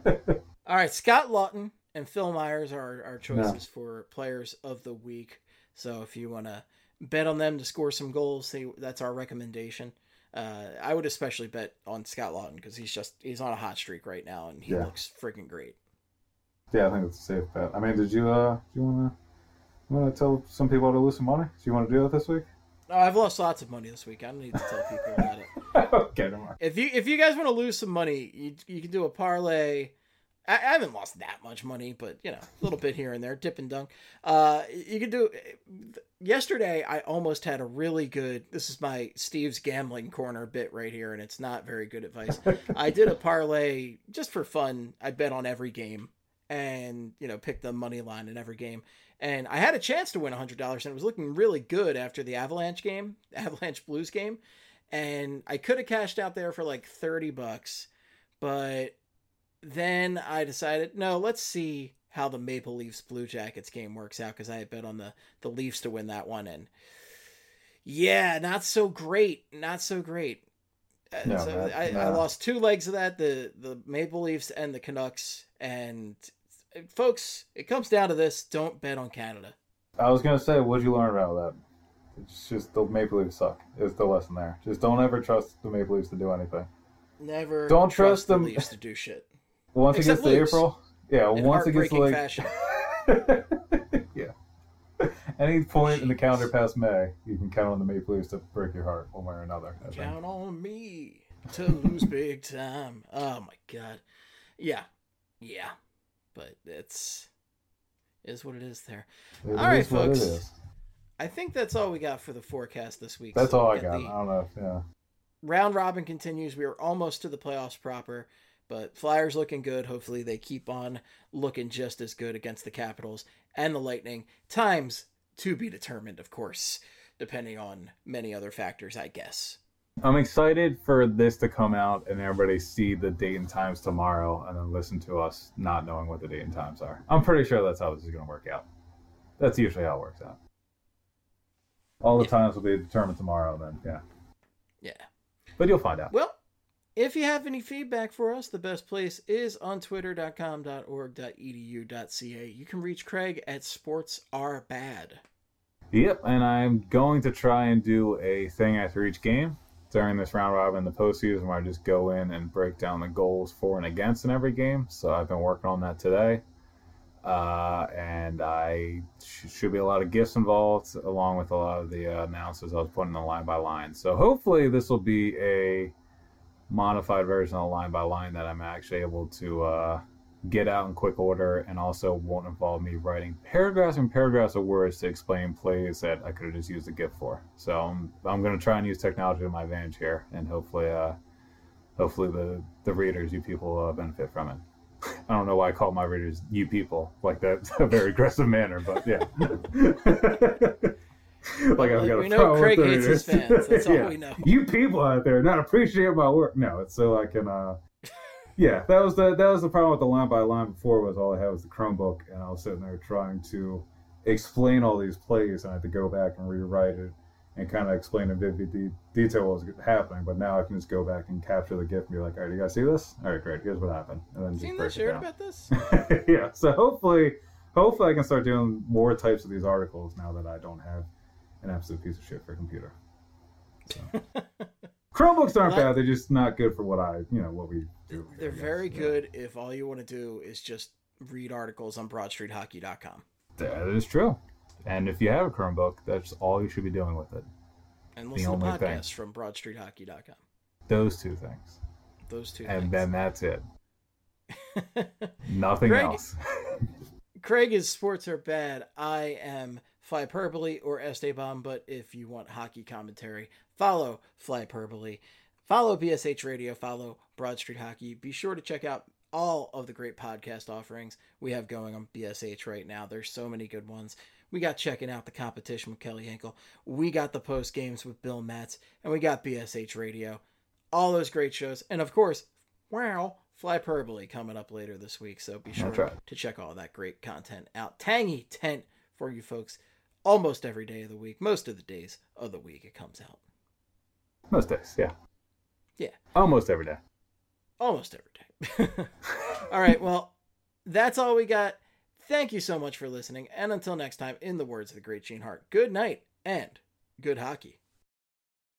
All right, Scott Lawton and Phil Myers are our choices for players of the week. So if you want to bet on them to score some goals, see, that's our recommendation. Uh, I would especially bet on Scott Lawton because he's just he's on a hot streak right now and he Yeah. looks freaking great. Yeah, I think it's a safe bet. I mean, did you uh, do you wanna you wanna tell some people how to lose some money? Do you want to do that this week? Oh, I've lost lots of money this week. I don't need to tell people about it. Okay, never mind. If you if you guys want to lose some money, you you can do a parlay. I, I haven't lost that much money, but you know, a little bit here and there, dip and dunk. Uh, you can do. Yesterday, I almost had a really good. This is my Steve's gambling corner bit right here, and it's not very good advice. I did a parlay just for fun. I bet on every game, and you know, picked the money line in every game. And I had a chance to win a hundred dollars, and it was looking really good after the Avalanche game, Avalanche Blues game. And I could have cashed out there for like thirty bucks, but then I decided, no, let's see how the Maple Leafs Blue Jackets game works out because I had bet on the, the Leafs to win that one. And yeah, not so great. Not so great. Uh, No, so that- I, no. I lost two legs of that, the, the Maple Leafs and the Canucks. And folks, it comes down to this. Don't bet on Canada. I was gonna say, what'd you learn about that? It's just the Maple Leafs suck. Is the lesson there? Just don't ever trust the Maple Leafs to do anything. Never Don't trust the them. Leafs to do shit. Once Except it gets to lose. April, yeah. In once it gets to heartbreaking like, fashion. yeah. Any point in the calendar past May, you can count on the Maple Leafs to break your heart one way or another. I think. Count on me to lose big time. Oh my God. Yeah. Yeah. But it's is what it is there. It All right, is what it folks. is. I think that's all we got for the forecast this week. That's So all I we got. the I don't know. If, yeah. round robin continues. We are almost to the playoffs proper, but Flyers looking good. Hopefully they keep on looking just as good against the Capitals and the Lightning. Times to be determined, of course. depending on many other factors, I guess. I'm excited for this to come out and everybody see the date and times tomorrow and then listen to us not knowing what the date and times are. I'm pretty sure that's how this is going to work out. That's usually how it works out. All the yeah. times will be determined tomorrow then, yeah. Yeah. But you'll find out. Well, if you have any feedback for us, the best place is on twitter dot com dot org dot e d u dot c a. You can reach Craig at sports are bad. Yep, and I'm going to try and do a thing after each game during this round robin in the postseason where I just go in and break down the goals for and against in every game. So I've been working on that today. Uh, and I sh- should be a lot of gifts involved along with a lot of the uh, announcers I was putting in line by line. So hopefully this will be a modified version of line by line that I'm actually able to uh, get out in quick order and also won't involve me writing paragraphs and paragraphs of words to explain plays that I could have just used a GIF for. So I'm, I'm going to try and use technology to my advantage here, and hopefully uh, hopefully the, the readers, you people, uh, benefit from it. I don't know why I call my readers you people like that, a very aggressive manner, but yeah. Like I've got we a know Craig with hates his fans. That's all yeah. we know. You people out there not appreciate my work. No, it's so I can uh yeah, that was the that was the problem with the line by line before was all I had was the Chromebook and I was sitting there trying to explain all these plays and I had to go back and rewrite it and kind of explain in vivid de- detail what was happening. But now I can just go back and capture the GIF and be like, all right, you guys see this? All right, great. Here's what happened. And then Seen just this? You heard down. about this? Yeah. So hopefully, hopefully I can start doing more types of these articles now that I don't have an absolute piece of shit for a computer. So. Chromebooks aren't well, bad. They're just not good for what I, you know, what we do. They're very yeah. good if all you want to do is just read articles on broad street hockey dot com. That is true. And if you have a Chromebook, that's all you should be doing with it. And listen to podcasts thing. from broad street hockey dot com. Those two things. Those two and things. then that's it. Nothing Craig, else. Craig is Sports Are Bad. I am Flyperbole or Esteban, but if you want hockey commentary, follow Flyperbole. Follow B S H Radio. Follow Broad Street Hockey. Be sure to check out all of the great podcast offerings we have going on B S H right now. There's so many good ones. We got Checking Out the Competition with Kelly Hinkle. We got the Post Games with Bill Metz. And we got B S H Radio. All those great shows. And of course, wow, Flyperbole coming up later this week. So be sure right. to check all that great content out. Tangy tent for you folks almost every day of the week. Most of the days of the week it comes out. Most days, yeah. Yeah. Almost every day. Almost every day. All right, well, that's all we got. Thank you so much for listening. And until next time, in the words of the great Gene Hart, good night and good hockey.